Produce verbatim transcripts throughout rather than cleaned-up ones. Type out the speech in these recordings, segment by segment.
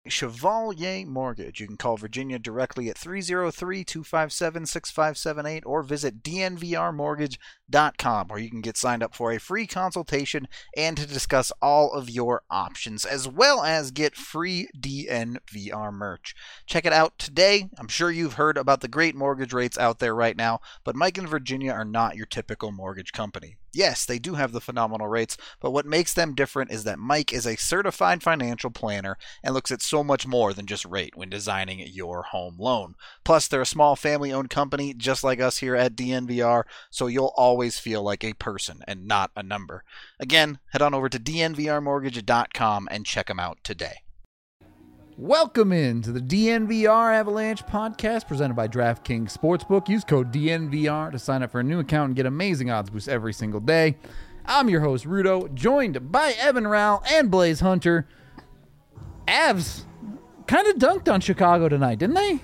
Chevalier Mortgage. You can call Virginia directly at three oh three, two five seven, six five seven eight or visit d n v r mortgage dot com, where you can get signed up for a free consultation and to discuss all of your options, as well as get free D N V R merch. Check it out today. I'm sure you've heard about the great mortgage rates out there right now, but Mike and Virginia are not your typical mortgage company. Yes, they do have the phenomenal rates, but what makes them different is that Mike is a certified financial planner and looks at so much more than just rate when designing your home loan. Plus, they're a small family-owned company just like us here at D N V R, so you'll always feel like a person and not a number. Again, head on over to d n v r mortgage dot com and check them out today. Welcome into the D N V R Avalanche podcast presented by DraftKings Sportsbook. Use code D N V R to sign up for a new account and get amazing odds boosts every single day. I'm your host, Rudo, joined by Evan Rowell and Blaze Hunter. Avs kind of dunked on Chicago tonight, didn't they?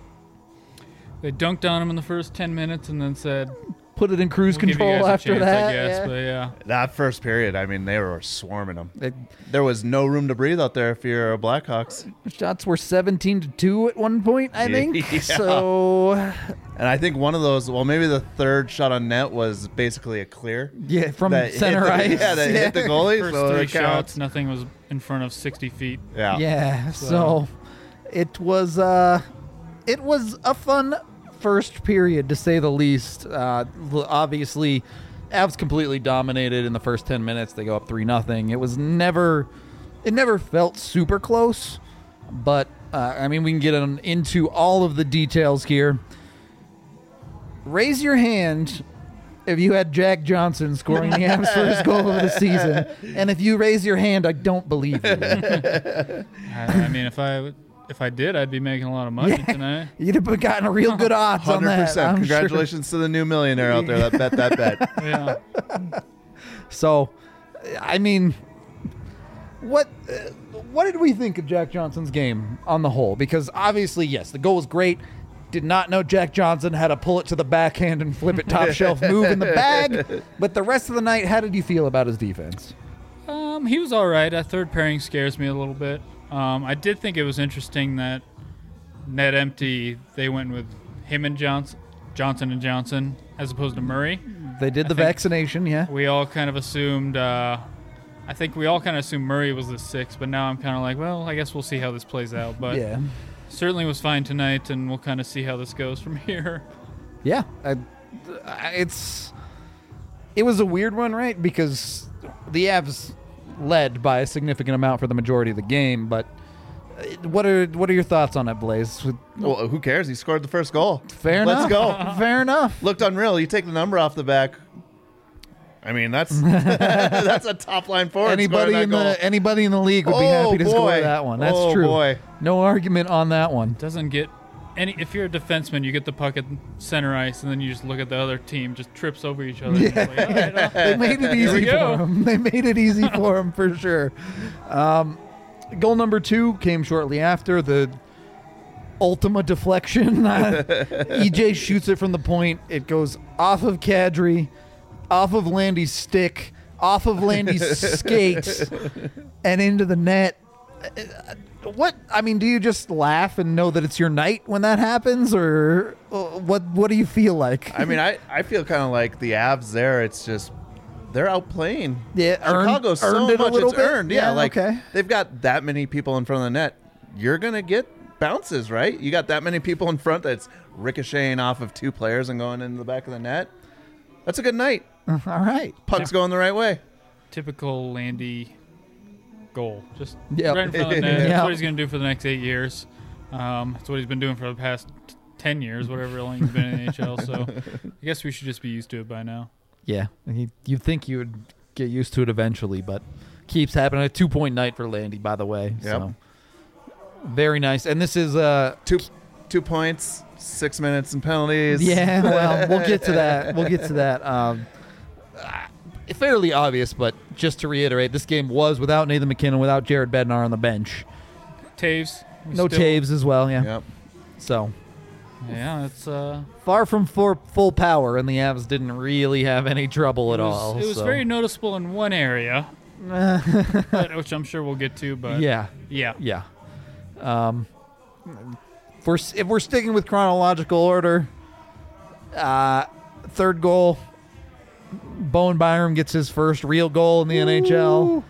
They dunked on him in the first ten minutes and then said, put it in cruise we'll control after chance, that. I guess, yeah. But yeah. That first period, I mean, they were swarming them. It, there was no room to breathe out there if you're a Blackhawks. Shots were seventeen to two at one point, I think. Yeah. So, and I think one of those, well, maybe the third shot on net was basically a clear. Yeah, from that center the, ice. Yeah, that yeah. hit the goalie. First so three it counts. shots, nothing was in front of sixty feet. Yeah. Yeah, So- so it was uh it was a fun first period, to say the least. Uh, l- obviously, Avs completely dominated in the first ten minutes. They go up three nothing. It was never, it never felt super close, but uh, I mean, we can get on, into all of the details here. Raise your hand if you had Jack Johnson scoring the Avs' first goal of the season, and if you raise your hand, I don't believe you. I, I mean, if I if I did, I'd be making a lot of money Yeah. tonight. You'd have gotten a real good odds on one hundred that. percent. I'm Congratulations to the new millionaire out there that bet that bet. Yeah. Sure. So, I mean, what uh, what did we think of Jack Johnson's game on the whole? Because obviously, yes, the goal was great. Did not know Jack Johnson had to pull it to the backhand and flip it top shelf move in the bag. But the rest of the night, how did you feel about his defense? Um, he was all right. That third pairing scares me a little bit. Um, I did think it was interesting that net empty, they went with him and Johnson, Johnson and Johnson, as opposed to Murray. They did the I think vaccination, yeah. We all kind of assumed, uh, I think we all kind of assumed Murray was the six, but now I'm kind of like, well, I guess we'll see how this plays out. But Yeah. certainly was fine tonight, and we'll kind of see how this goes from here. Yeah. I, I- it's it was a weird one, right? Because the Avs led by a significant amount for the majority of the game, but uh, what are what are your thoughts on it, Blaze? Well, who cares? He scored the first goal. Fair Let's enough. go. Fair enough. Looked unreal. You take the number off the back. I mean, that's that's a top line forward. Anybody scoring in that goal. the anybody in the league would be Oh, happy to score boy. that one. That's Oh, true. boy. No argument on that one. Doesn't get any. If you're a defenseman, you get the puck at center ice, and then you just look at the other team, just trips over each other. Yeah. Like, all right, uh, They made it Here we easy go. for him. They made it easy for him for sure. Um, goal number two came shortly after the Ultima deflection. Uh, E J shoots it from the point. It goes off of Kadri, off of Landy's stick, off of Landy's skates, and into the net. Uh, What I mean, do you just laugh and know that it's your night when that happens, or uh, what? What do you feel like? I mean, I, I feel kind of like the Avs there. It's just they're outplaying. Yeah, earned- Chicago so earned it a much little it's bit? earned. Yeah, Yeah, like okay. they've got that many people in front of the net. You're gonna get bounces, right? You got that many people in front that's ricocheting off of two players and going into the back of the net. That's a good night. All right. Puck's going the right way. typical Landy goal. Just Yep. right in front of the net. Yep. That's what he's going to do for the next eight years. Um, that's what he's been doing for the past t- ten years, whatever long he's been in the N H L. So I guess we should just be used to it by now. Yeah, you, you'd think you would get used to it eventually, but keeps happening. A two-point night for Landy, by the way. Yep. So very nice. And this is uh Two two points, six minutes and penalties. yeah. Well, we'll get to that. We'll get to that. Um, uh, fairly obvious, but just to reiterate, this game was without Nathan McKinnon, without Jared Bednar on the bench. Taves. we No still- Taves as well. Yeah. Yep. So Yeah, it's uh, far from for full power, and the Avs didn't really have any trouble at it was, all. It was so. very noticeable in one area, but, which I'm sure we'll get to. But yeah. yeah, Yeah. Um, if we're if we're sticking with chronological order, uh, third goal, Bowen Byram gets his first real goal in the N H L.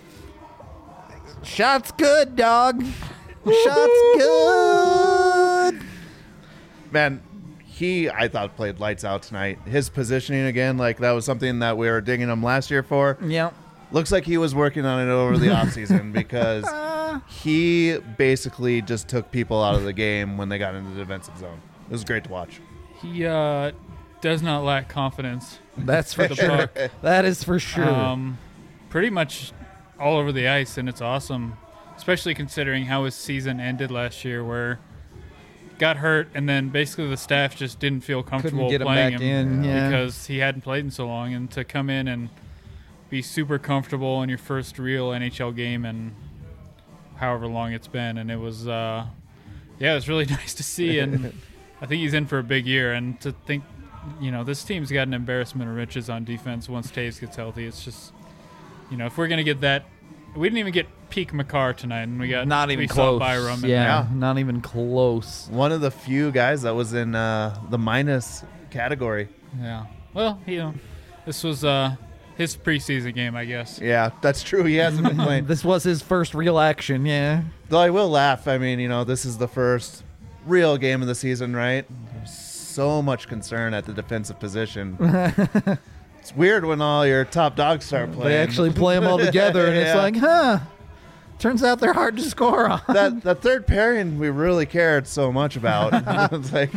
Shot's good, dog. Shot's good. Man, he, I thought, played lights out tonight. His positioning, again, like that was something that we were digging him last year for. Yeah. Looks like he was working on it over the offseason because he basically just took people out of the game when they got into the defensive zone. It was great to watch. He uh, does not lack confidence. That's for the sure. puck. That is for sure. Um, pretty much all over the ice, and it's awesome, especially considering how his season ended last year, where got hurt, and then basically the staff just didn't feel comfortable get him playing back him in, yeah. because he hadn't played in so long, and to come in and be super comfortable in your first real N H L game and however long it's been, and it was, uh, yeah, it was really nice to see, and I think he's in for a big year, and to think, you know, this team's got an embarrassment of riches on defense once Taves gets healthy. It's just, you know, if we're going to get that, we didn't even get peak Makar tonight, and we got Not even we close. Saw Byram and yeah, not even close. One of the few guys that was in uh, the minus category. Yeah. Well, you know, this was uh, his preseason game, I guess. Yeah, that's true. He hasn't been playing. This was his first real action, yeah. Though I will laugh. I mean, you know, this is the first real game of the season, right? There's so much concern at the defensive position. It's weird when all your top dogs start playing. They actually play them all together, and it's Yeah. like, huh, turns out they're hard to score on. that that third pairing we really cared so much about. It's like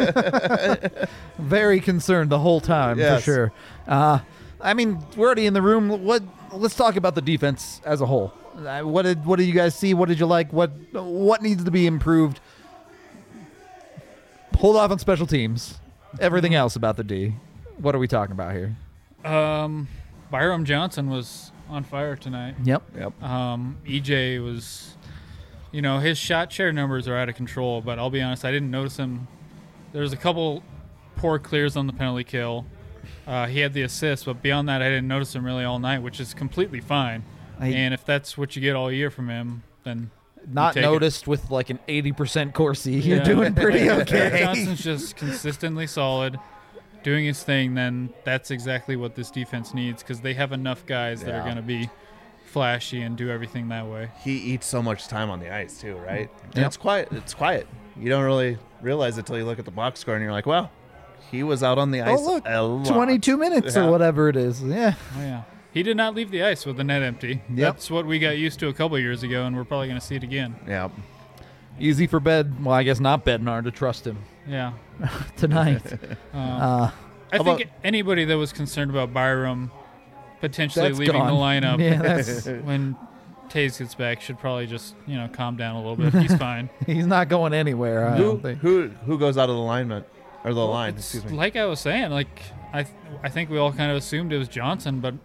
Very concerned the whole time, Yes. for sure. Uh, I mean, we're already in the room. What? Let's talk about the defense as a whole. Uh, what did What did you guys see? What did you like? What What needs to be improved? Hold off on special teams. Everything else about the D. What are we talking about here? Um, Byram Johnson was on fire tonight. Yep. Yep. Um, E J was, you know, his shot share numbers are out of control, but I'll be honest, I didn't notice him. There was a couple poor clears on the penalty kill. Uh, he had the assist, but beyond that, I didn't notice him really all night, which is completely fine. I- and if that's what you get all year from him, then Not take it. noticed with like an eighty percent Corsi. You're Yeah. doing pretty if okay. Johnson's just consistently solid, doing his thing, then that's exactly what this defense needs, because they have enough guys that are Yeah. going to be flashy and do everything that way. He eats so much time on the ice too, right? And Yep. it's quiet. It's quiet. You don't really realize it till you look at the box score and you're like, "Wow, he was out on the ice Oh, look, a lot." twenty-two minutes Yeah. or whatever it is. Yeah. Oh, yeah. He did not leave the ice with the net empty. That's what we got used to a couple years ago, and we're probably going to see it again. Yeah. Easy for Bed. Well, I guess not Bednar to trust him Yeah. tonight. Um, uh, I How think about- anybody that was concerned about Byram potentially That's leaving gone. the lineup Yeah, that's when Taves gets back should probably just, you know, calm down a little bit. He's fine. he's not going anywhere. I Who don't think. who who goes out of the alignment or the line? It's Excuse me. like I was saying, like I, th- I think we all kind of assumed it was Johnson, but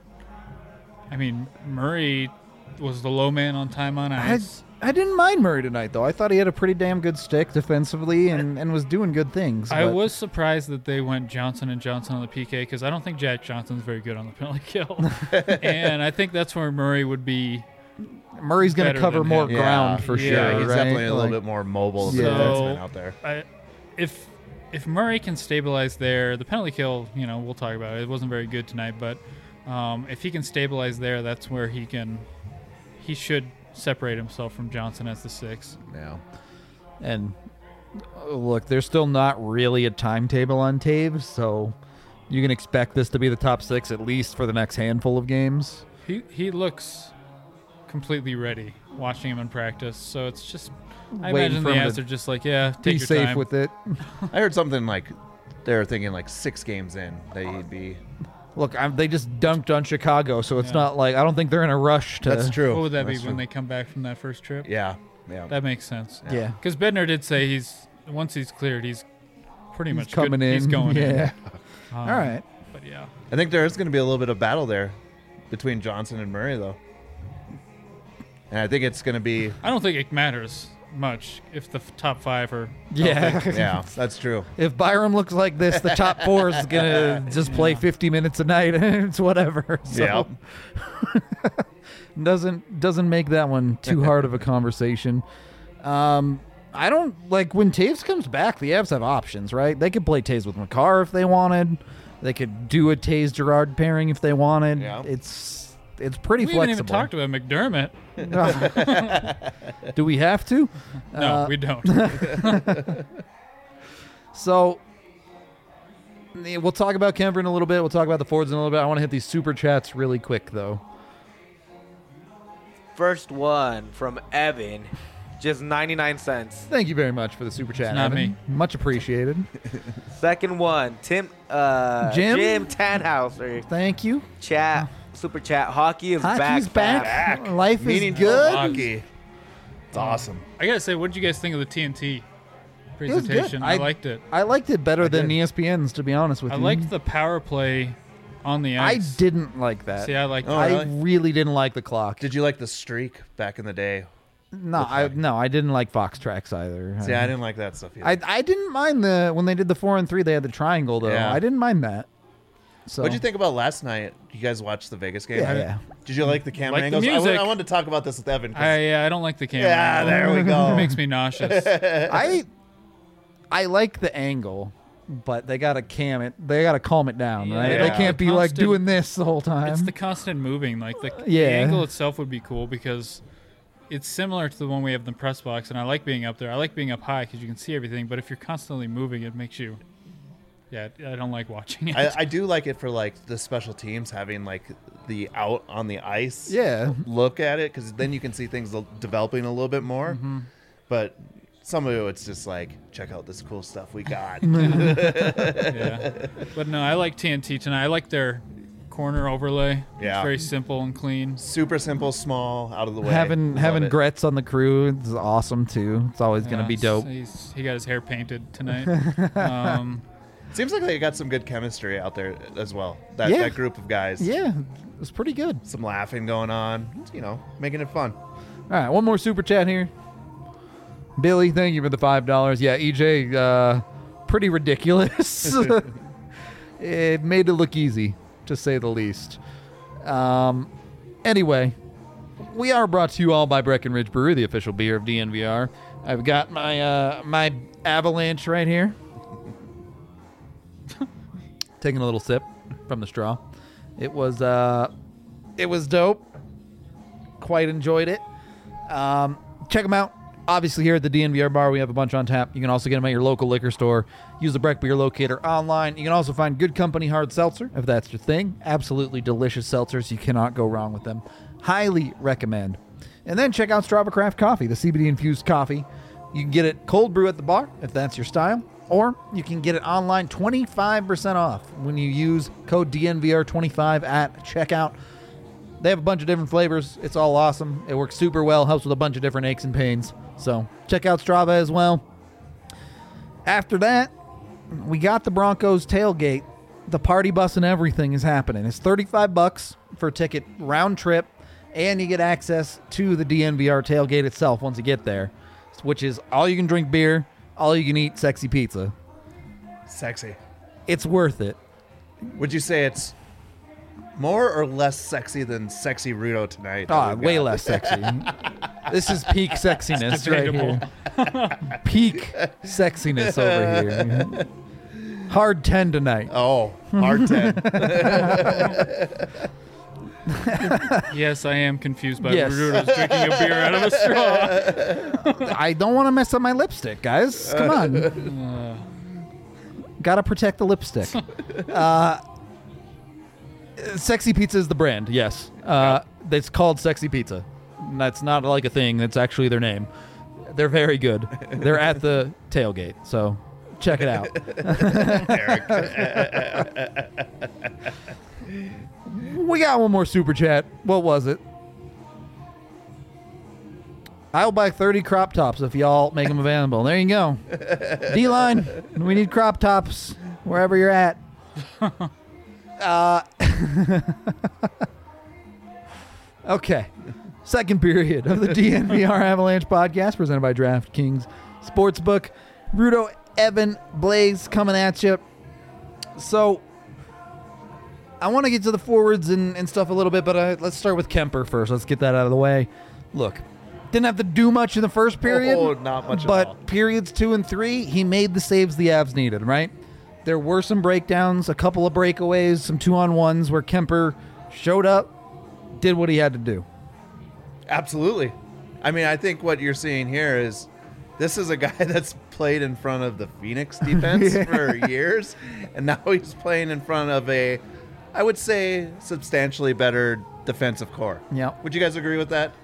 I mean Murray was the low man on time on I, ice. I didn't mind Murray tonight, though. I thought he had a pretty damn good stick defensively and, and was doing good things. I but- was surprised that they went Johnson and Johnson on the P K, because I don't think Jack Johnson's very good on the penalty kill, and I think that's where Murray would be. Murray's going to better cover than more him. Yeah. ground for Yeah, sure. Yeah, he's right? definitely a little Like, bit more mobile of a Yeah. defenseman out there. I, if if Murray can stabilize there, the penalty kill, you know, we'll talk about it. It wasn't very good tonight, but um, if he can stabilize there, that's where he can. He should separate himself from Johnson as the six. Yeah. And uh, look, there's still not really a timetable on Taves, so you can expect this to be the top six at least for the next handful of games. He he looks completely ready watching him in practice. So it's just, I Waiting imagine for the him to answer just like, yeah, take Be your safe time. with it. I heard something like they were thinking like six games in that he'd be. Look, I'm, they just dunked on Chicago, so it's Yeah. not like I don't think they're in a rush to. That's true. What would that be That's when true. they come back from that first trip? Yeah. Yeah. That makes sense. Yeah, Because Bednar did say he's once he's cleared, he's pretty he's much coming good. in. He's going in. yeah. Um, All right. But yeah, I think there is going to be a little bit of battle there between Johnson and Murray, though. And I think it's going to be. I don't think it matters much if the f- top five are. Yeah. Yeah, that's true. If Byram looks like this, the top four is gonna just play Yeah. fifty minutes a night. It's whatever. So Yeah. doesn't doesn't make that one too hard of a conversation. Um, I don't like when Taves comes back. The Avs have options, right? They could play Taves with Makar if they wanted. They could do a Taves Gerard pairing if they wanted. Yeah. It's it's pretty We haven't even flexible. talked about McDermott. Do we have to? No, Uh, we don't. So yeah, we'll talk about Kemper in a little bit. We'll talk about the Fords in a little bit. I want to hit these super chats really quick, though. First one from Evan, just ninety-nine cents. Thank you very much for the super chat. It's not Evan. me. Much appreciated. Second one, Tim, uh, Jim? Jim Tannhauser. Thank you. Chat, super chat. Hockey is Hockey's back. back. back. Life is Meaningful good. hockey. It's awesome. I gotta say, what did you guys think of the T N T was good. presentation? I, I- liked it. I liked it better I than did. E S P N's, to be honest with I you. liked the power play on the I ice. didn't like that. See, I liked Oh, I it. really? really didn't like the clock. Did you like the streak back in the day? no, the I flag? no, I didn't like Fox tracks either. See, I didn't like that stuff either. I I didn't mind the when they did the four and three. They had the triangle though. Yeah. I didn't mind that. So What'd you think about last night? You guys watched the Vegas game? Yeah, yeah. Did you like the camera Like the angles? I, music. wa- I wanted to talk about this with Evan. 'cause- I, uh, I don't like the camera. Yeah, angle. there we go. It makes me nauseous. I I like the angle, but they gotta cam it. They gotta calm it down, right? Yeah. They can't be like Constant- doing this the whole time. It's the constant moving. Like the, Yeah. the angle itself would be cool because it's similar to the one we have in the press box, and I like being up there. I like being up high because you can see everything. But if you're constantly moving, it makes you. Yeah, I don't like watching it. I, I do like it for like the special teams having like the out on the ice yeah. look at it because then you can see things l- developing a little bit more. Mm-hmm. But some of it, it's just like check out this cool stuff we got. yeah, but no, I like T N T tonight. I like their corner overlay. Yeah. It's very simple and clean. Super simple, small, out of the way. Having Love having it. Gretz on the crew is awesome too. It's always gonna Yeah, be dope. He's, he got his hair painted tonight. um, Seems like they got some good chemistry out there as well. That Yeah. that group of guys. Yeah, it's pretty good. Some laughing going on. You know, making it fun. All right, one more super chat here. Billy, thank you for the five dollars. Yeah, E J, uh, pretty ridiculous. It made it look easy, to say the least. Um, anyway, we are brought to you all by Breckenridge Brewery, the official beer of D N V R. I've got my uh, my Avalanche right here. Taking a little sip from the straw. It was uh, it was dope. Quite enjoyed it. Um, check them out. Obviously, here at the D N V R bar, we have a bunch on tap. You can also get them at your local liquor store. Use the Breck Beer Locator online. You can also find Good Company Hard Seltzer, if that's your thing. Absolutely delicious seltzers. You cannot go wrong with them. Highly recommend. And then check out Strava Craft Coffee, the C B D-infused coffee. You can get it cold brew at the bar, if that's your style. Or you can get it online twenty-five percent off when you use code D N V R twenty-five at checkout. They have a bunch of different flavors. It's all awesome. It works super well. Helps with a bunch of different aches and pains. So check out Strava as well. After that, we got the Broncos tailgate. The party bus and everything is happening. It's thirty-five bucks for a ticket round trip, and you get access to the D N V R tailgate itself once you get there, which is all you can drink beer, all you can eat sexy pizza. Sexy. It's worth it. Would you say it's more or less sexy than Sexy Rudo tonight? that Ah, we've way got? less sexy. This is peak sexiness right here. Peak sexiness over here. Hard ten tonight. Oh, hard ten. yes, I am confused by Yes. Rudo's drinking a beer out of a straw. I don't want to mess up my lipstick, guys. Come on. Uh, Gotta protect the lipstick. Uh, Sexy Pizza is the brand, yes. Uh, it's called Sexy Pizza. That's not like a thing. That's actually their name. They're very good. They're at the tailgate, so check it out. We got one more super chat. What was it? I'll buy thirty crop tops if y'all make them available. There you go. D-line, we need crop tops wherever you're at. Uh, okay. Second period of the D N V R Avalanche podcast presented by DraftKings Sportsbook. Rudo, Evan, Blaze coming at you. So, I want to get to the forwards and, and stuff a little bit, but uh, let's start with Kemper first. Let's get that out of the way. Look, Didn't have to do much in the first period. Oh, not much at But all. periods two and three, he made the saves the Avs needed, right? There were some breakdowns, a couple of breakaways, some two-on-ones where Kemper showed up, did what he had to do. Absolutely. I mean, I think what you're seeing here is this is a guy that's played in front of the Phoenix defense Yeah. for years, and now he's playing in front of a, I would say, substantially better defensive core. Yeah. Would you guys agree with that?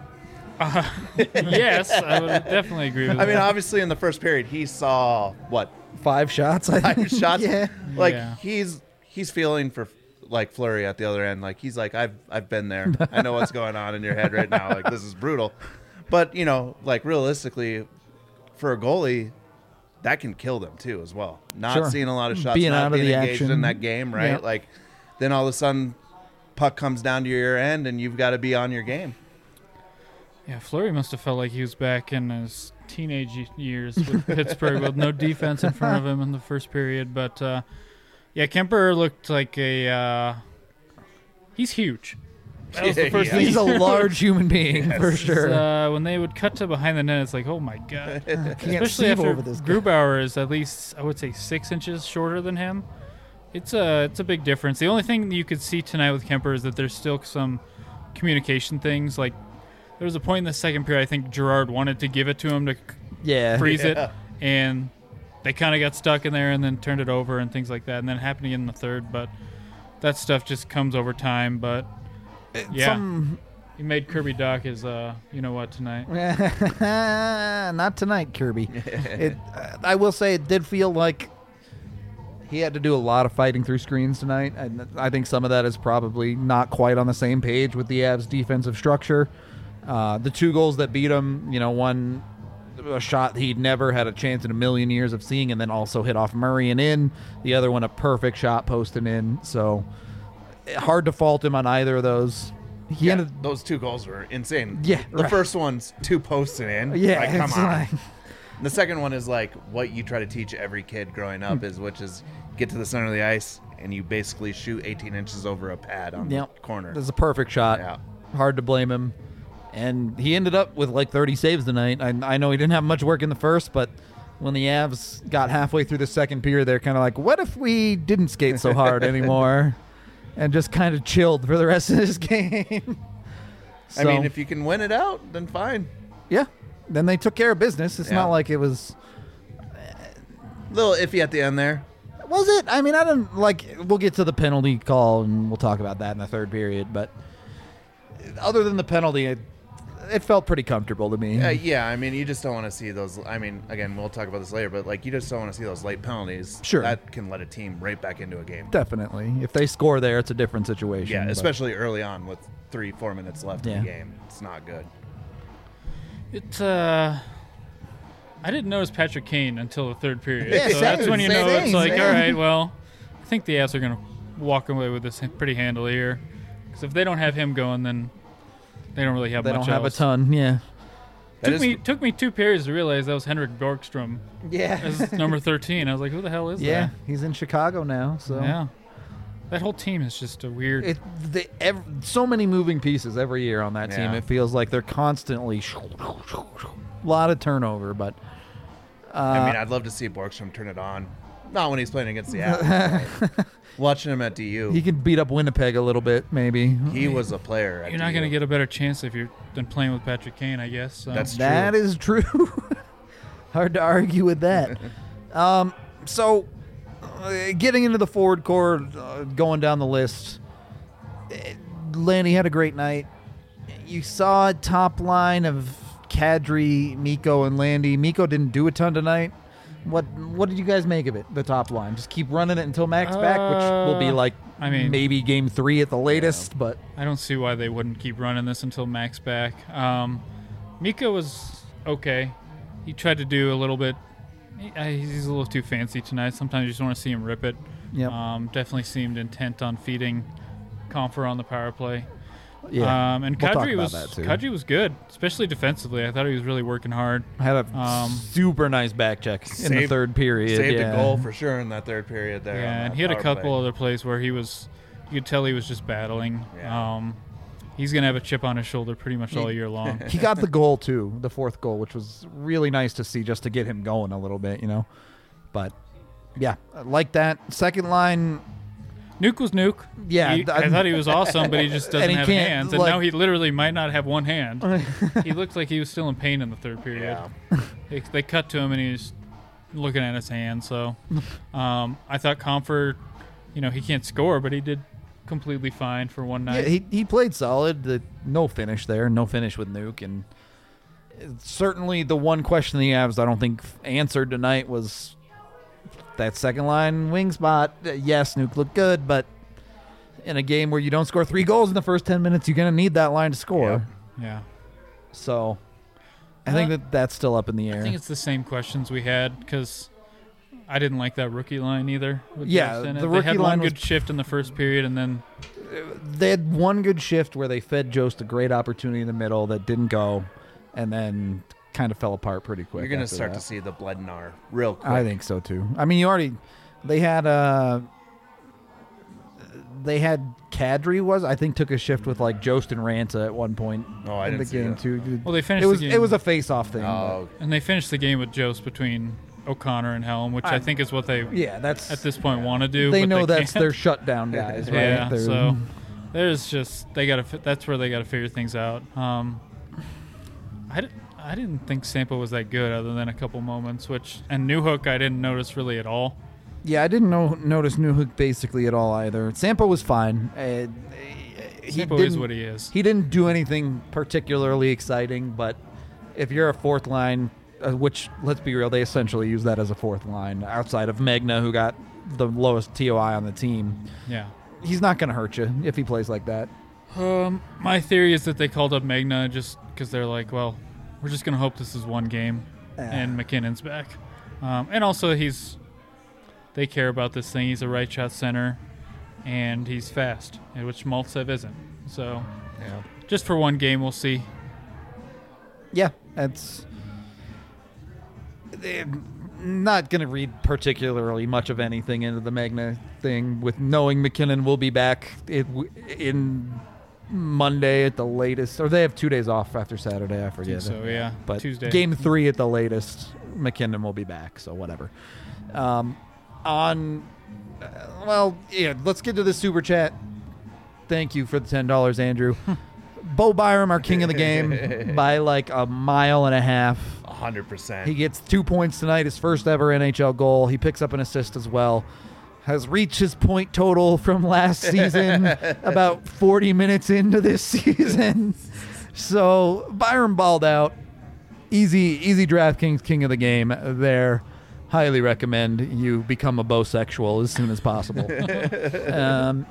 Yes, I would definitely agree with I mean, that. obviously, in the first period, he saw, what, Five shots, I five think. shots? Yeah. Like, Yeah. he's he's feeling for, like, Fleury at the other end. Like, he's like, I've, I've been there. I know what's going on in your head right now. Like, this is brutal. But, you know, like, realistically, for a goalie, that can kill them too as well. Not Sure. seeing a lot of shots, Being not out of being the engaged action. in that game, right? Yeah. Like, then all of a sudden, puck comes down to your end, and you've got to be on your game. Yeah, Fleury must have felt like he was back in his teenage y- years with Pittsburgh with no defense in front of him in the first period. But, uh, yeah, Kemper looked like a uh, – he's huge. That was the first Yeah. thing. He's a large human being, for Yes. sure. Uh, when they would cut to behind the net, it's like, oh, my God. Can't Especially see after over this guy. Grubauer is at least, I would say, six inches shorter than him. It's a, it's a big difference. The only thing that you could see tonight with Kemper is that there's still some communication things. Like, there was a point in the second period, I think Gerard wanted to give it to him to Yeah. freeze Yeah. it, and they kind of got stuck in there and then turned it over and things like that. And then it happened again in the third, but that stuff just comes over time. But yeah, Some, he made Kirby Doc his, uh, you know what, tonight. not tonight, Kirby. it, uh, I will say it did feel like he had to do a lot of fighting through screens tonight. And I think some of that is probably not quite on the same page with the Avs' defensive structure. Uh, the two goals that beat him, you know, one a shot he'd never had a chance in a million years of seeing, and then also hit off Murray and in. The other one, a perfect shot posting in. So hard to fault him on either of those. He Yeah, ended. those two goals were insane. Yeah, The right. first one's two posting in. Yeah, Like, come it's on. like- The second one is like what you try to teach every kid growing up Hmm. is, which is get to the center of the ice and you basically shoot eighteen inches over a pad on Yep. the corner. This is a perfect shot. Yeah. Hard to blame him. And he ended up with like thirty saves tonight. I, I know he didn't have much work in the first, but when the Avs got halfway through the second period, they're kind of like, what if we didn't skate so hard anymore? And just kind of chilled for the rest of this game. I So, mean, if you can win it out, then fine. yeah. Then they took care of business. It's Yeah. not like it was. A little iffy at the end there. Was it? I mean, I don't like. We'll get to the penalty call and we'll talk about that in the third period. But other than the penalty, it, it felt pretty comfortable to me. Uh, yeah, I mean, you just don't want to see those. I mean, again, we'll talk about this later, but like, you just don't want to see those late penalties. Sure. That can let a team right back into a game. Definitely. If they score there, it's a different situation. Yeah, but- especially early on with three, four minutes left in Yeah. the game. It's not good. It, uh, I didn't notice Patrick Kane until the third period. Yeah, so that's same, when you same know thing, it's like, same. all right, well, I think the Avs are going to walk away with this pretty handily here. Because if they don't have him going, then they don't really have They much don't have else. a ton. Yeah. That Took is- me took me two periods to realize that was Henrik Borgstrom Yeah. as number thirteen. I was like, who the hell is Yeah. that? He's in Chicago now. So Yeah. That whole team is just a weird. It, they, ev- so many moving pieces every year on that team. Yeah. It feels like they're constantly a lot of turnover, but uh, I mean, I'd love to see Borgstrom turn it on. Not when he's playing against the Avs. but watching him at D U, he he, could beat up Winnipeg a little bit, maybe. was a player. At You're not D U. going to get a better chance if you're than playing with Patrick Kane, I guess. So. That's That true. is true. Hard to argue with that. um, so, uh, getting into the forward core, uh, going down the list, eh, Lanny had a great night. You saw a top line of Kadri, Miko, and Landy. Miko didn't do a ton tonight. What What did you guys make of it? The top line, just keep running it until Max back, which will be Uh, like, I mean- maybe game three at the latest. But I don't see why they wouldn't keep running this until Max back. Um, Mika was okay. He tried to do a little bit. He, uh, he's a little too fancy tonight. Sometimes you just want to see him rip it. Yep. Um, definitely seemed intent on feeding Comfer on the power play. yeah, Um, and We'll talk Kadri about was that, too. Kadri was good, especially defensively. I thought he was really working hard. had a um, super nice back check in the Saved- third period. Saved yeah. a goal for sure in that third period there. on Yeah, and that he had a power couple play. other plays where he was, you could tell he was just battling. Yeah. Um, he's gonna have a chip on his shoulder pretty much all year long. He got the goal too, the fourth goal, which was really nice to see, just to get him going a little bit, you know. But yeah, I like that second line. Nuke was Nuke. Yeah, He- I- I thought he was awesome, but he just doesn't And he have can't, hands. And like- now he literally might not have one hand. He looked like he was still in pain in the third period. They, they cut to him and he's looking at his hand. So um, I thought Comfort, you know, he can't score, but he did completely fine for one Yeah, night. he he played solid. The, no finish there, no finish with Nuke, and certainly the one question the Avs I don't think answered tonight was that second line wing spot. Uh, Yes, Nuke looked good, but in a game where you don't score three goals in the first ten minutes, you're gonna need that line to score. yeah. So I think Uh, that that's still up in the air. I think it's the same questions we had because I didn't like that rookie line either. with Yeah, Jost in it. the they rookie had line one was- good shift in the first period, and then They had one good shift where they fed Jost a great opportunity in the middle that didn't go, and then kind of fell apart pretty quick. You're going to after start that. to see the Blednar real quick. I think so too. I mean, you already they had uh they had Kadri was I think took a shift with like Jost and Ranta at one point Oh, I in didn't the see game that. too. well they finished It was the game. it was a face off thing. Oh, and they finished the game with Jost between O'Connor and Helm, which I, I- think is what they but yeah, that's at this point want to do. they but know they that's can't. their shutdown guys, right? Yeah, They're- so there's just they got to. That's where they got to figure things out. Um, I, di- I didn't think Sampo was that good, other than a couple moments. Which and Newhook I didn't notice really at all. yeah, I didn't know, notice Newhook basically at all either. Sampo was fine. Uh, he Sampo is didn't- what he is. He didn't do anything particularly exciting, but if you're a fourth line, uh, which, let's be real, they essentially use that as a fourth line outside of Magna, who got the lowest T O I on the team. Yeah. He's not going to hurt you if he plays like that. Um, my theory is that they called up Magna just because they're like, well, we're just gonna hope this is one game, and McKinnon's back, um, and also he's they care about this thing. He's a right shot center, and he's fast, and which Maltsev isn't. So, yeah. just for one game, we'll see. Yeah, that's... I'm not going to read particularly much of anything into the Magna thing with knowing McKinnon will be back it, in Monday at the latest. Or they have two days off after Saturday, I I forget. think so yeah, But Tuesday. game three at the latest, McKinnon will be back, so whatever. Um, on, uh, well, yeah, let's get to the super chat. Thank you for the ten dollars, Andrew. Bo Byram, our king of the game, by like a mile and a half. one hundred percent. He gets two points tonight, his first ever N H L goal. He picks up an assist as well. Has reached his point total from last season about forty minutes into this season. So Byron balled out. Easy, easy DraftKings king of the game there. Highly recommend you become a bosexual as soon as possible. um,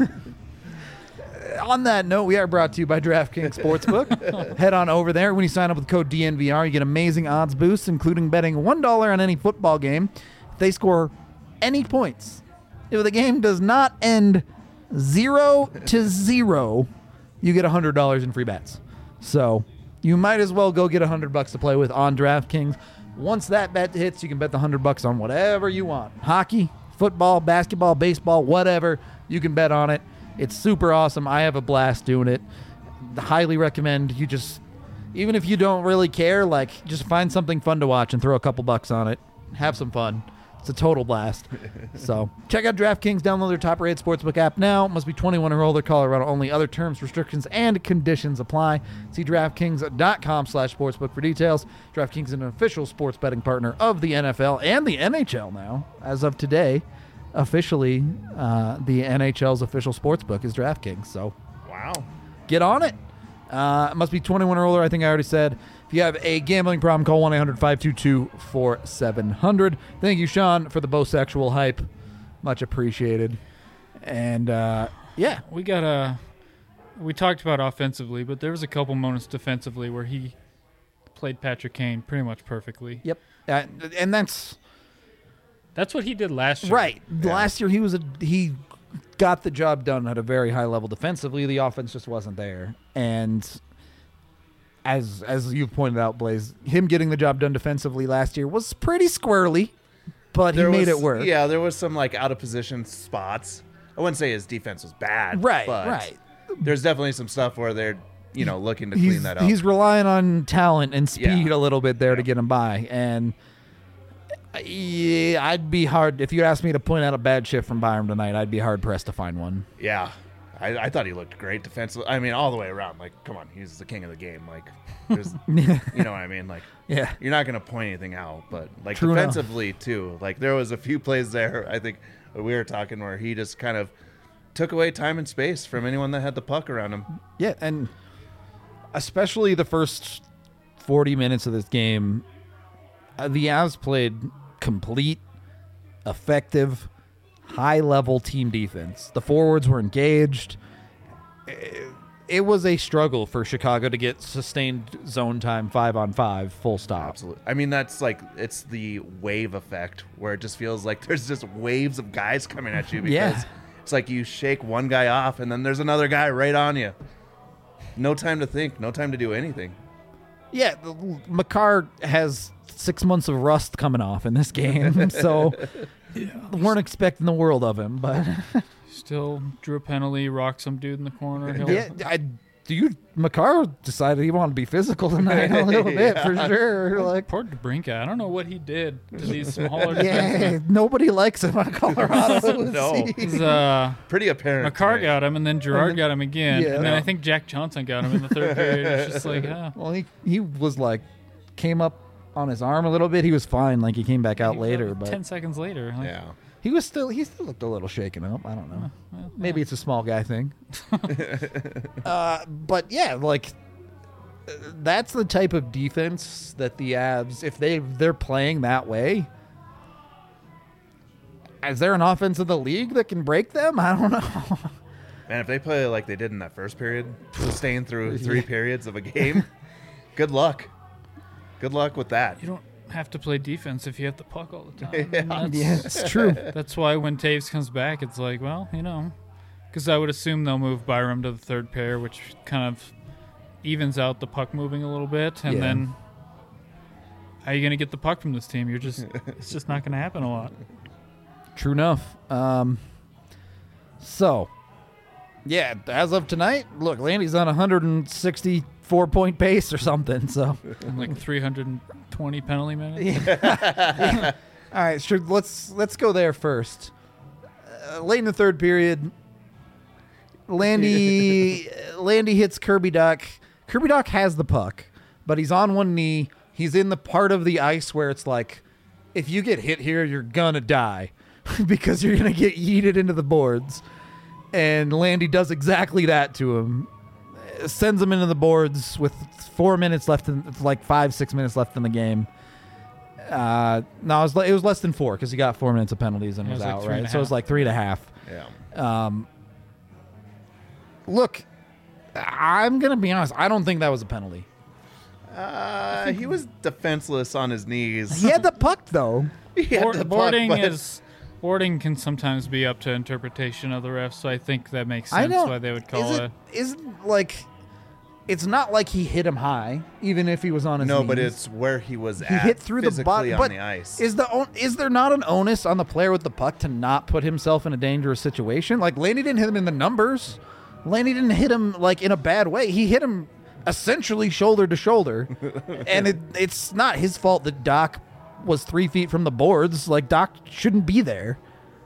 on that note, we are brought to you by DraftKings Sportsbook. Head on over there. When you sign up with code D N V R, you get amazing odds boosts, including betting one dollar on any football game. If they score any points, if the game does not end zero to zero, you get one hundred dollars in free bets. So you might as well go get one hundred bucks to play with on DraftKings. Once that bet hits, you can bet the one hundred bucks on whatever you want. Hockey, football, basketball, baseball, whatever. You can bet on it. It's super awesome. I have a blast doing it. Highly recommend you just, even if you don't really care, like just find something fun to watch and throw a couple bucks on it. Have some fun. It's a total blast. So check out DraftKings. Download their top-rated sportsbook app now. Must be twenty-one or older. Colorado only. Other terms, restrictions, and conditions apply. See DraftKings.com slash sportsbook for details. DraftKings is an official sports betting partner of the N F L and the N H L now. As of today, officially, uh, the N H L's official sportsbook is DraftKings. So Wow. get on it. Uh, it must be twenty-one or older. I think I already said. If you have a gambling problem, call one eight hundred five two two four seven zero zero. Thank you, Sean, for the bosexual hype. Much appreciated. And, uh, yeah. We got a. We talked about offensively, but there was a couple moments defensively where he played Patrick Kane pretty much perfectly. Yep. Uh, and that's That's what he did last year. right. Last year, he was a he got the job done at a very high level defensively. The offense just wasn't there. And as as you pointed out, Blaze, him getting the job done defensively last year was pretty squirrely, but he There made was- it work. Yeah, there was some like out of position spots. I wouldn't say his defense was bad. Right, but right. there's definitely some stuff where they're, you know, looking to he's, clean that up. He's relying on talent and speed Yeah. a little bit there Yeah. to get him by. And yeah, I'd be hard if you asked me to point out a bad shift from Byram tonight. I'd be hard pressed to find one. Yeah. I, I thought he looked great defensively. I mean, all the way around. Like, come on, he's the king of the game. Like, there's, you know what I mean? Like, Yeah. you're not going to point anything out, but like True enough. defensively too. Like, there was a few plays there. I think we were talking where he just kind of took away time and space from anyone that had the puck around him. Yeah, and especially the first forty minutes of this game, uh, the Avs played complete, effective, high-level team defense. The forwards were engaged. It, it was a struggle for Chicago to get sustained zone time five on five, full stop. Absolutely. I mean, that's like, it's the wave effect where it just feels like there's just waves of guys coming at you because Yeah. it's like you shake one guy off and then there's another guy right on you. No time to think, no time to do anything. Yeah, the- Makar has six months of rust coming off in this game, so weren't expecting the world of him. But Still drew a penalty, rocked some dude in the corner. He'll- yeah, I, do you? Makar decided he wanted to be physical tonight a little bit for sure. Like, Poor DeBrincat. I don't know what he did to these smaller yeah, nobody likes him on Colorado. No. defenses. Uh, Pretty apparent. Makar tonight. got him, and then Gerard then- got him again. yeah. and then Yeah. I think Jack Johnson got him in the third period. It's just like, ah. Well, he he was like came up on his arm a little bit. He was fine. Like he came back out He- later, but ten seconds later. Like, Yeah. he was still he still looked a little shaken up. I don't know. well, Maybe it's a small guy thing. uh, but yeah, like uh, that's the type of defense that the Avs, if they they're playing that way, is there an offense in the league that can break them? I don't know. Man, if they play like they did in that first period, sustained through three periods of a game, good luck. Good luck with that. You don't have to play defense if you have the puck all the time. And that's, Yeah, it's true. that's why when Taves comes back, it's like, well, you know, because I would assume they'll move Byram to the third pair, which kind of evens out the puck moving a little bit. And Yeah. then how are you going to get the puck from this team? You're just, it's just not going to happen a lot. True enough. Um, so, yeah, as of tonight, look, Landy's on a one hundred sixty-four point pace or something. So, And like three hundred twenty penalty minutes. all right, sure. Let's let's go there first. Uh, late in the third period, Landy Landy hits Kirby Duck. Kirby Duck has the puck, but he's on one knee. He's in the part of the ice where it's like, if you get hit here, you're gonna die because you're gonna get yeeted into the boards. And Landy does exactly that to him. Uh, Sends him into the boards with four minutes left, in, like five, six minutes left in the game. Uh, no, it was, le- it was less than four because he got four minutes of penalties and It was, was like out, three and right? a So it was half. like three and a half. Yeah. Um, look, I'm going to be honest. I don't think that was a penalty. Uh, he was defenseless on his knees. He had the puck, though. He had Board, the puck, boarding but- is boarding can sometimes be up to interpretation of the refs, so I think that makes I sense don't. why they would call is it. it. Isn't like. It's not like he hit him high, even if he was on his No, knees. but it's where he was He at. hit through the physically bottom. on But the ice. is the on- is there not an onus on the player with the puck to not put himself in a dangerous situation? Like Laney didn't hit him in the numbers. Laney didn't hit him like in a bad way. He hit him essentially shoulder to shoulder, and it, it's not his fault that Doc was three feet from the boards. Like Doc shouldn't be there.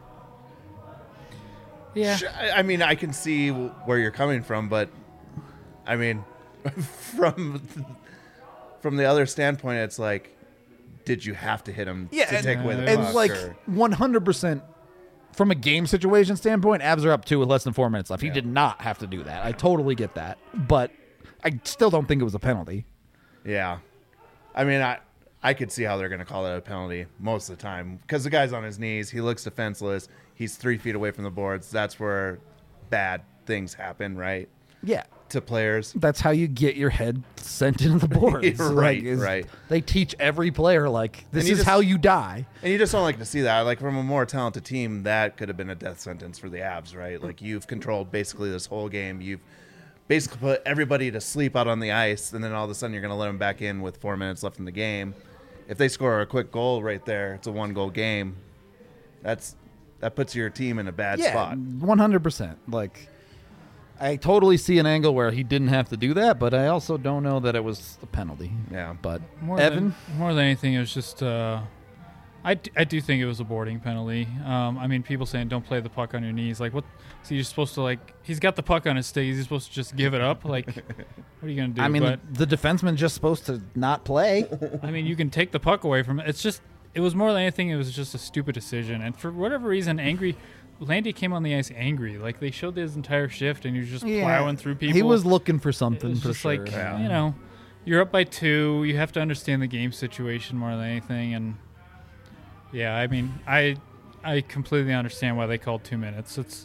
Yeah. Sh- I I mean, I can see where you're coming from, but I mean, from from the other standpoint, it's like, did you have to hit him Yeah, to and, take away the and puck? like or- one hundred percent from a game situation standpoint, Avs are up two with less than four minutes left. He Yeah. did not have to do that. I totally get that, but I still don't think it was a penalty. Yeah, I mean, I I could see how they're going to call that a penalty most of the time because the guy's on his knees. He looks defenseless. He's three feet away from the boards. That's where bad things happen, right? Yeah. To players. That's how you get your head sent into the boards. Right, Like, is- right. They teach every player, like, this you is just- how you die. And you just don't like to see that. Like, from a more talented team, that could have been a death sentence for the Avs, right? Like, you've controlled basically this whole game. You've basically put everybody to sleep out on the ice, and then all of a sudden you're going to let them back in with four minutes left in the game. If they score a quick goal right there, it's a one-goal game. That's that puts your team in a bad Yeah, spot. one hundred percent. Like, I totally see an angle where he didn't have to do that, but I also don't know that it was a penalty. Yeah. But More Evan, than, more than anything, it was just. Uh, I, d- I do think it was a boarding penalty. Um, I mean, people saying don't play the puck on your knees. Like, what? So you're supposed to like? He's got the puck on his stick. Is he supposed to just give it up? Like, what are you gonna do? I mean, but, the defenseman's just supposed to not play. I mean, you can take the puck away from it. It's just. It was more than anything. It was just a stupid decision, and for whatever reason, angry. Landy came on the ice angry. Like they showed his entire shift, and he was just plowing through people. He was looking for It something was for just sure. like Yeah. you know, you're up by two. You have to understand the game situation more than anything, and yeah, I mean, I I completely understand why they called two minutes. It's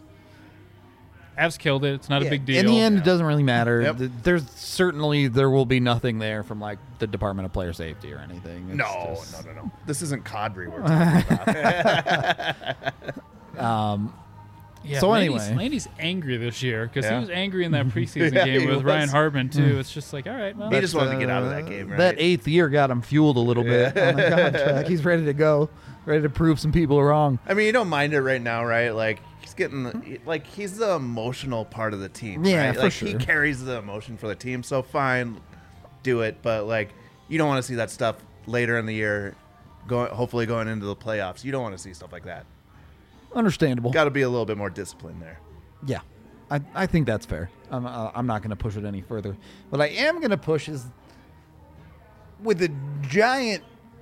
Avs killed it. It's not Yeah, a big deal. In the end, Yeah. it doesn't really matter. Yep. Th- There's certainly there will be nothing there from like the Department of Player Safety or anything. It's No, just- no, no, no. This isn't Cadre we're talking about. Um, Yeah, So Landy's, anyway. Landy's angry this year because Yeah. he was angry in that preseason Yeah, game he with was. Ryan Hartman too. It's just like, all right, well, He just wanted to get out of uh, that game, right? That eighth year got him fueled a little bit on the contract. He's ready to go, ready to prove some people wrong. I mean, you don't mind it right now, right? Like he's getting, the, like he's the emotional part of the team. Yeah, right? for like sure. he carries the emotion for the team. So fine, do it. But like, you don't want to see that stuff later in the year, going hopefully going into the playoffs. You don't want to see stuff like that. Understandable. Got to be a little bit more disciplined there. Yeah, I, I think that's fair. I'm uh, I'm not going to push it any further. What I am going to push is with a giant,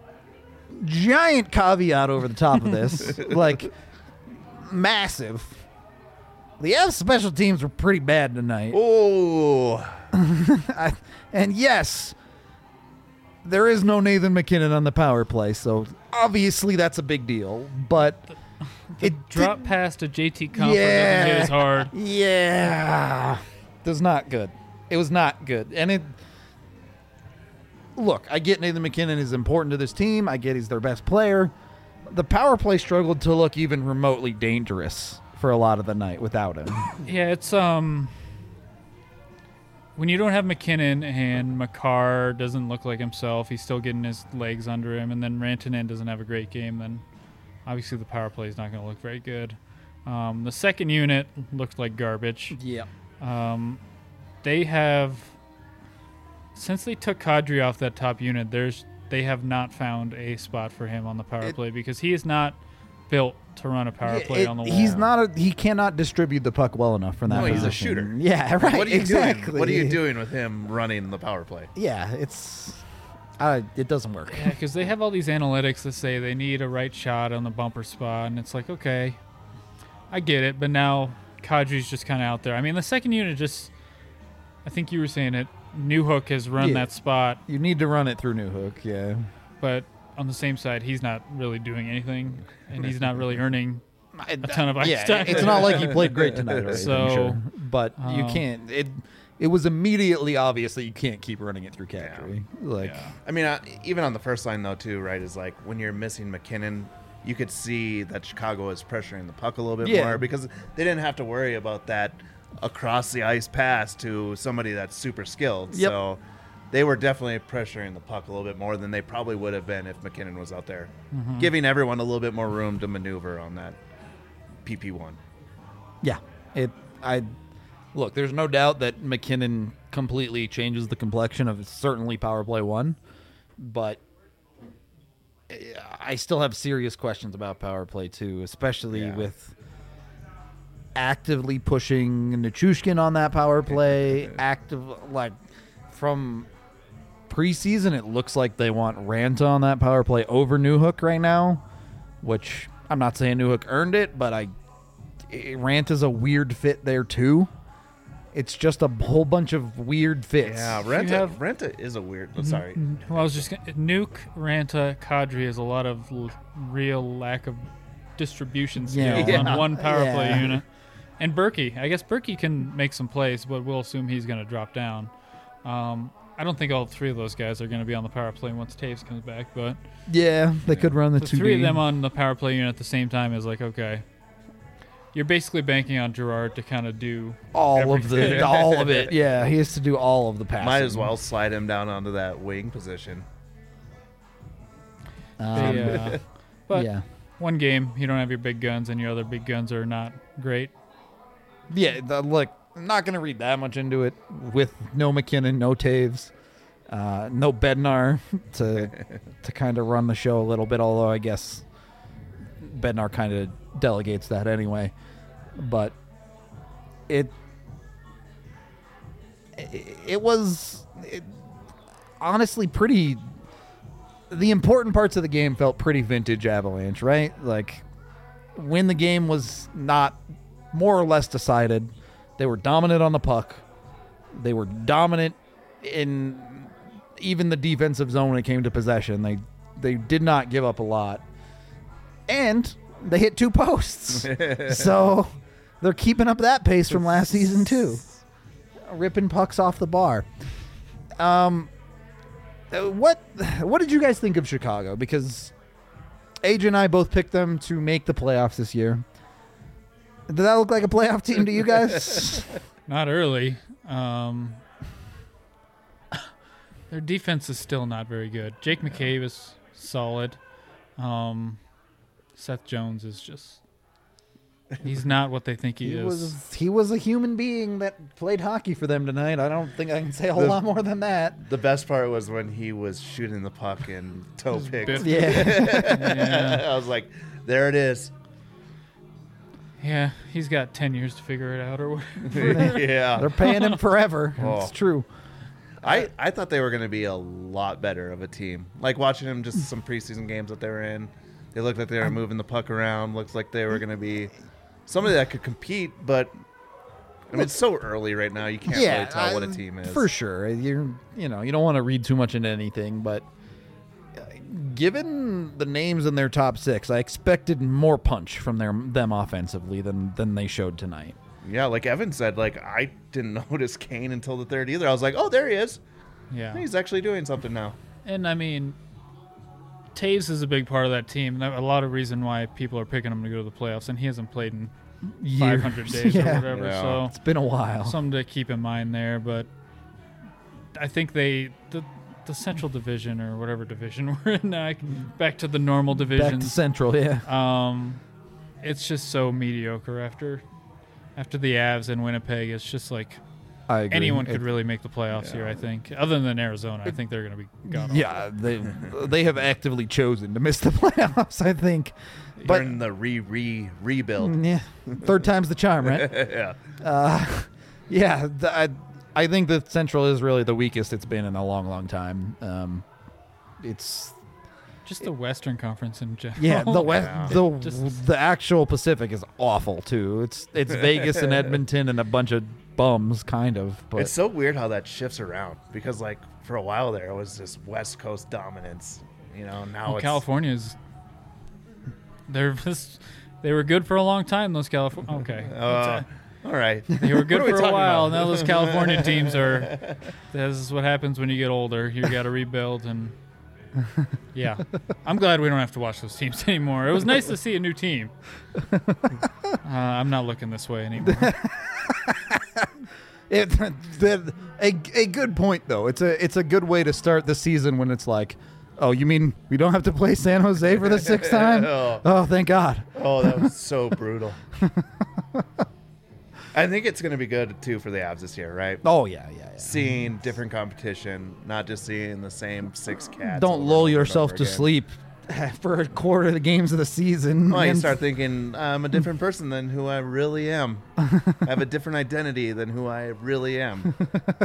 giant caveat over the top of this, like massive. The Avs special teams were pretty bad tonight. Oh, I, and yes, there is no Nathan McKinnon on the power play, so obviously that's a big deal. But it drop did- past to J T Comfort Yeah. doesn't hit as hard. Yeah, it was not good. It was not good, and it. Look, I get Nathan McKinnon is important to this team. I get he's their best player. The power play struggled to look even remotely dangerous for a lot of the night without him. Yeah, it's um when you don't have McKinnon and Makar doesn't look like himself, he's still getting his legs under him, and then Rantanen doesn't have a great game, then obviously the power play is not going to look very good. Um, the second unit looked like garbage. Yeah. Um, they have since they took Kadri off that top unit, there's they have not found a spot for him on the power It- play because he is not built to run a power Yeah, play it- on the wall. He's not. A, he cannot distribute the puck well enough from that. No, he's a position. shooter. Yeah, right. what are you exactly. doing? What are you doing with him running the power play? Yeah, it's. Uh, it doesn't work. Yeah, because they have all these analytics that say they need a right shot on the bumper spot, and it's like, okay, I get it, but now Kadri's just kind of out there. I mean, the second unit just, I think you were saying it, Newhook has run Yeah. that spot, You need to run it through Newhook. Yeah. but on the same side, he's not really doing anything, and he's not really earning a ton of ice yeah, time. it's not like he played great tonight. Or anything, So, sure. But you um, can't. It. It was immediately obvious that you can't keep running it through Kadri. Like. Yeah. I mean, uh, even on the first line though, too, right? Is like when you're missing McKinnon, you could see that Chicago is pressuring the puck a little bit Yeah. more because they didn't have to worry about that across the ice pass to somebody that's super skilled. Yep. So they were definitely pressuring the puck a little bit more than they probably would have been if McKinnon was out there, Mm-hmm. giving everyone a little bit more room to maneuver on that P P one. Yeah. It. I. Look, there's no doubt that McKinnon completely changes the complexion of certainly power play one, but I still have serious questions about power play two, especially Yeah. with actively pushing Nichushkin on that power play. Active, like from preseason, it looks like they want Ranta on that power play over Newhook right now, which I'm not saying Newhook earned it, but I Ranta's a weird fit there too. It's just a whole bunch of weird fits. Yeah, You Renta, have- Renta is a weird. oh, sorry. Well, I was just gonna, Nuke, Ranta, Kadri has a lot of l- real lack of distribution skills Yeah. on one power Yeah. play unit. And Berkey, I guess Berkey can make some plays, but we'll assume he's going to drop down. Um, I don't think all three of those guys are going to be on the power play once Taves comes back, but Yeah, they could run the, the two three D. of them on the power play unit at the same time is like, okay, you're basically banking on Gerard to kind of do all of everything. the all of it. Yeah, he has to do all of the passing. Might as well slide him down onto that wing position. Um, they, uh, but yeah, one game, you don't have your big guns, and your other big guns are not great. yeah. The, look, I'm not going to read that much into it with no McKinnon, no Taves, uh, no Bednar to to kind of run the show a little bit, although I guess Bednar kind of delegates that anyway. But it it, it was it, honestly pretty... The important parts of the game felt pretty vintage Avalanche, right? Like, when the game was not more or less decided, they were dominant on the puck. They were dominant in even the defensive zone when it came to possession. They they did not give up a lot. And they hit two posts. So they're keeping up that pace from last season, too. Ripping pucks off the bar. Um... Uh, what what did you guys think of Chicago? Because A J and I both picked them to make the playoffs this year. Did that look like a playoff team to you guys? Not early. Um, their defense is still not very good. Jake McCabe is solid. Um, Seth Jones is just... He's not what they think he, he is. Was, he was a human being that played hockey for them tonight. I don't think I can say a whole The- lot more than that. The best part was when he was shooting the puck and toe picked. bit- Yeah. Yeah. I was like, there it is. Yeah, he's got ten years to figure it out or whatever. Yeah. They're paying him forever. Oh. It's true. I, I thought they were going to be a lot better of a team. Like watching them, just some preseason games that they were in. They looked like they were moving the puck around. Looked like they were going to be somebody that could compete, but I mean, it's so early right now. You can't really tell what a I- team is. For sure. You're, you know, you don't want to read too much into anything, but uh, given the names in their top six, I expected more punch from their them offensively than than they showed tonight. Yeah, like Evan said, like I didn't notice Kane until the third either. I was like, oh, there he is. Yeah. He's actually doing something now. And, I mean, Taves is a big part of that team. A lot of reason why people are picking him to go to the playoffs, and he hasn't played in five hundred days Yeah. or whatever. Yeah. So It's been a while. something to keep in mind there. But I think they the the Central Division or whatever division we're in now, back to the normal Back to divisions. Central, yeah. Um, it's just so mediocre after after the Avs and Winnipeg. It's just like I agree. anyone It- could really make the playoffs here. I think, other than Arizona, I think they're going to be gone. Yeah, they they have actively chosen to miss the playoffs, I think. But But in the re re rebuild. mm, yeah, third time's the charm, right? Yeah. Uh, yeah, th- I, I think that Central is really the weakest it's been in a long, long time. Um, it's Just the Western Conference in general. yeah, the west, Yeah. the Just- the actual Pacific is awful too. It's it's Vegas and Edmonton and a bunch of bums, kind of. But It's so weird how that shifts around because, like, for a while there, it was just West Coast dominance. You know, now Well, it's California's they're just they were good for a long time. Those California okay, Uh, all right. they were good What are we for a talking while. about? Now those California teams are. This is what happens when you get older. You got to rebuild and. Yeah, I'm glad we don't have to watch those teams anymore. It was nice to see a new team. Uh, I'm not looking this way anymore. It, the, a, a good point though. It's a it's a good way to start the season when it's like, oh, you mean we don't have to play San Jose for the sixth time? Oh. Oh, thank God. Oh, that was so brutal. I think it's going to be good, too, for the Avs this year, right? Oh yeah, yeah, yeah. Seeing different competition, not just seeing the same six cats. Don't over and lull over and yourself over to again. sleep for a quarter of the games of the season. Well, you And- start thinking, I'm a different person than who I really am. I have a different identity than who I really am.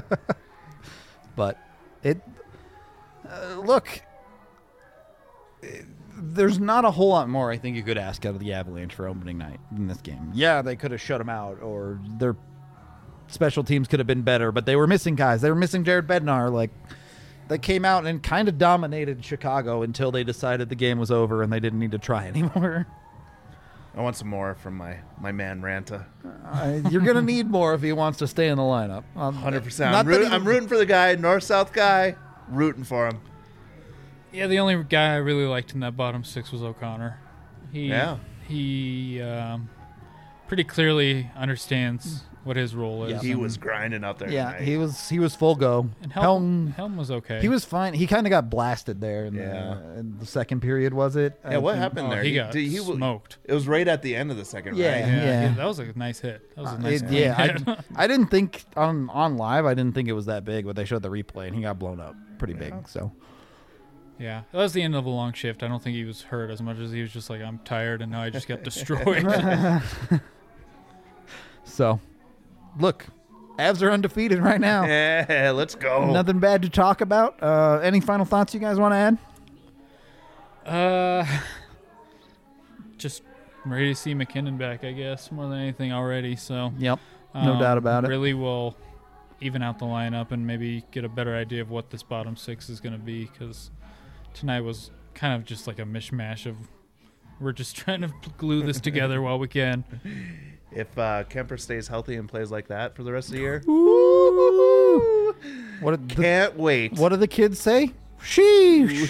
But it uh, look, it- there's not a whole lot more I think you could ask out of the Avalanche for opening night in this game. Yeah, they could have shut them out, or their special teams could have been better, but they were missing guys. They were missing Jared Bednar. Like, they came out and kind of dominated Chicago until they decided the game was over and they didn't need to try anymore. I want some more from my, my man Ranta. Uh, you're gonna need more if he wants to stay in the lineup. Um, one hundred percent. not I'm, that root, he- I'm rooting for the guy, north-south guy, rooting for him. Yeah, the only guy I really liked in that bottom six was O'Connor. He Yeah. he um, pretty clearly understands what his role is. He and, was grinding out there. Yeah, tonight. he was he was full go. and Helm, Helm, Helm was okay. he was fine. He kind of got blasted there in, Yeah. the, in the second period, was it? Yeah, I what think- happened Oh, there? he got did- he, smoked. It was right at the end of the second, Yeah. right? Yeah, he- that was a nice hit. That was a Uh, nice it- clean yeah, hit. I, I didn't think on on live. I didn't think it was that big, but they showed the replay and he got blown up pretty big. So Yeah, that was the end of a long shift. I don't think he was hurt as much as he was just like, I'm tired, and now I just got destroyed. so, look, Avs are undefeated right now. Yeah, let's go. Nothing bad to talk about. Uh, any final thoughts you guys want to add? uh, just ready to see McKinnon back, I guess, more than anything already. So Yep, no um, doubt about it. Really will even out the lineup and maybe get a better idea of what this bottom six is going to be, because tonight was kind of just like a mishmash of we're just trying to glue this together while we can. If uh, Kemper stays healthy and plays like that for the rest of the year, What did the, can't wait. what do the kids say? Sheesh.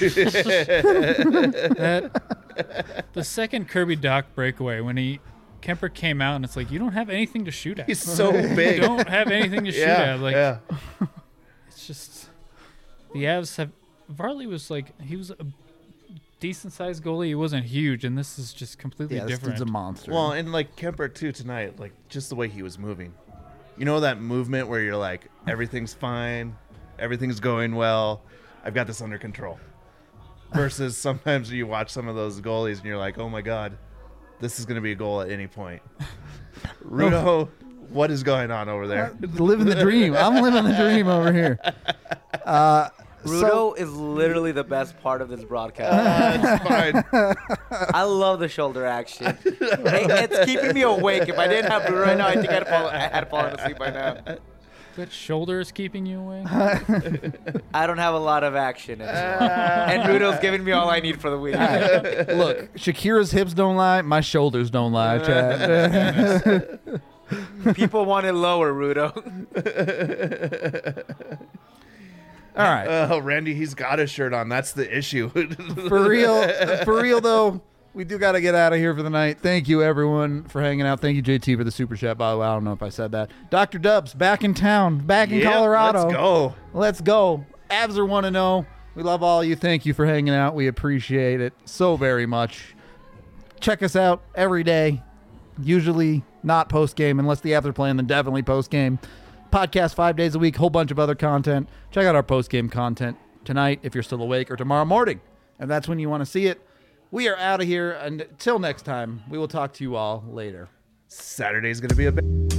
That the second Kirby Doc breakaway when he Kemper came out and it's like, you don't have anything to shoot at. He's so You big. don't have anything to shoot yeah, at. Like yeah. it's just the Avs have Varley was like he was a decent sized goalie. He wasn't huge, and this is just completely Yeah, this different. dude's a monster. Well, and like Kemper too tonight, like just the way he was moving. You know that movement where you're like, everything's fine, everything's going well, I've got this under control. Versus sometimes you watch some of those goalies and you're like, oh my god, this is going to be a goal at any point. Rudo, what is going on over there? living the dream. I'm living the dream over here. Uh, Rudo so, is literally the best part of this broadcast. That's fine. I love the shoulder action. It- it's keeping me awake. If I didn't have Rudo right now, I think I'd fall, I had fallen asleep by now. That shoulder is keeping you awake. I don't have a lot of action. In and Rudo's giving me all I need for the week. look, Shakira's hips don't lie. My shoulders don't lie, Chad. People want it lower, Rudo. All right. Oh, Randy, he's got his shirt on. That's the issue. For real, for real though, we do got to get out of here for the night. Thank you everyone for hanging out. Thank you J T for the super chat. By the way, I don't know if I said that. Doctor Dubs back in town, back in Yep, Colorado. Let's go. Let's go. Avs are one to know. We love all of you. Thank you for hanging out. We appreciate it so very much. Check us out every day. Usually not post game unless the Avs are playing. Then definitely post game. Podcast five days a week, whole bunch of other content. Check out our post-game content tonight if you're still awake, or tomorrow morning, and that's when you want to see it. We are out of here. Until next time, we will talk to you all later. Saturday's going to be a big...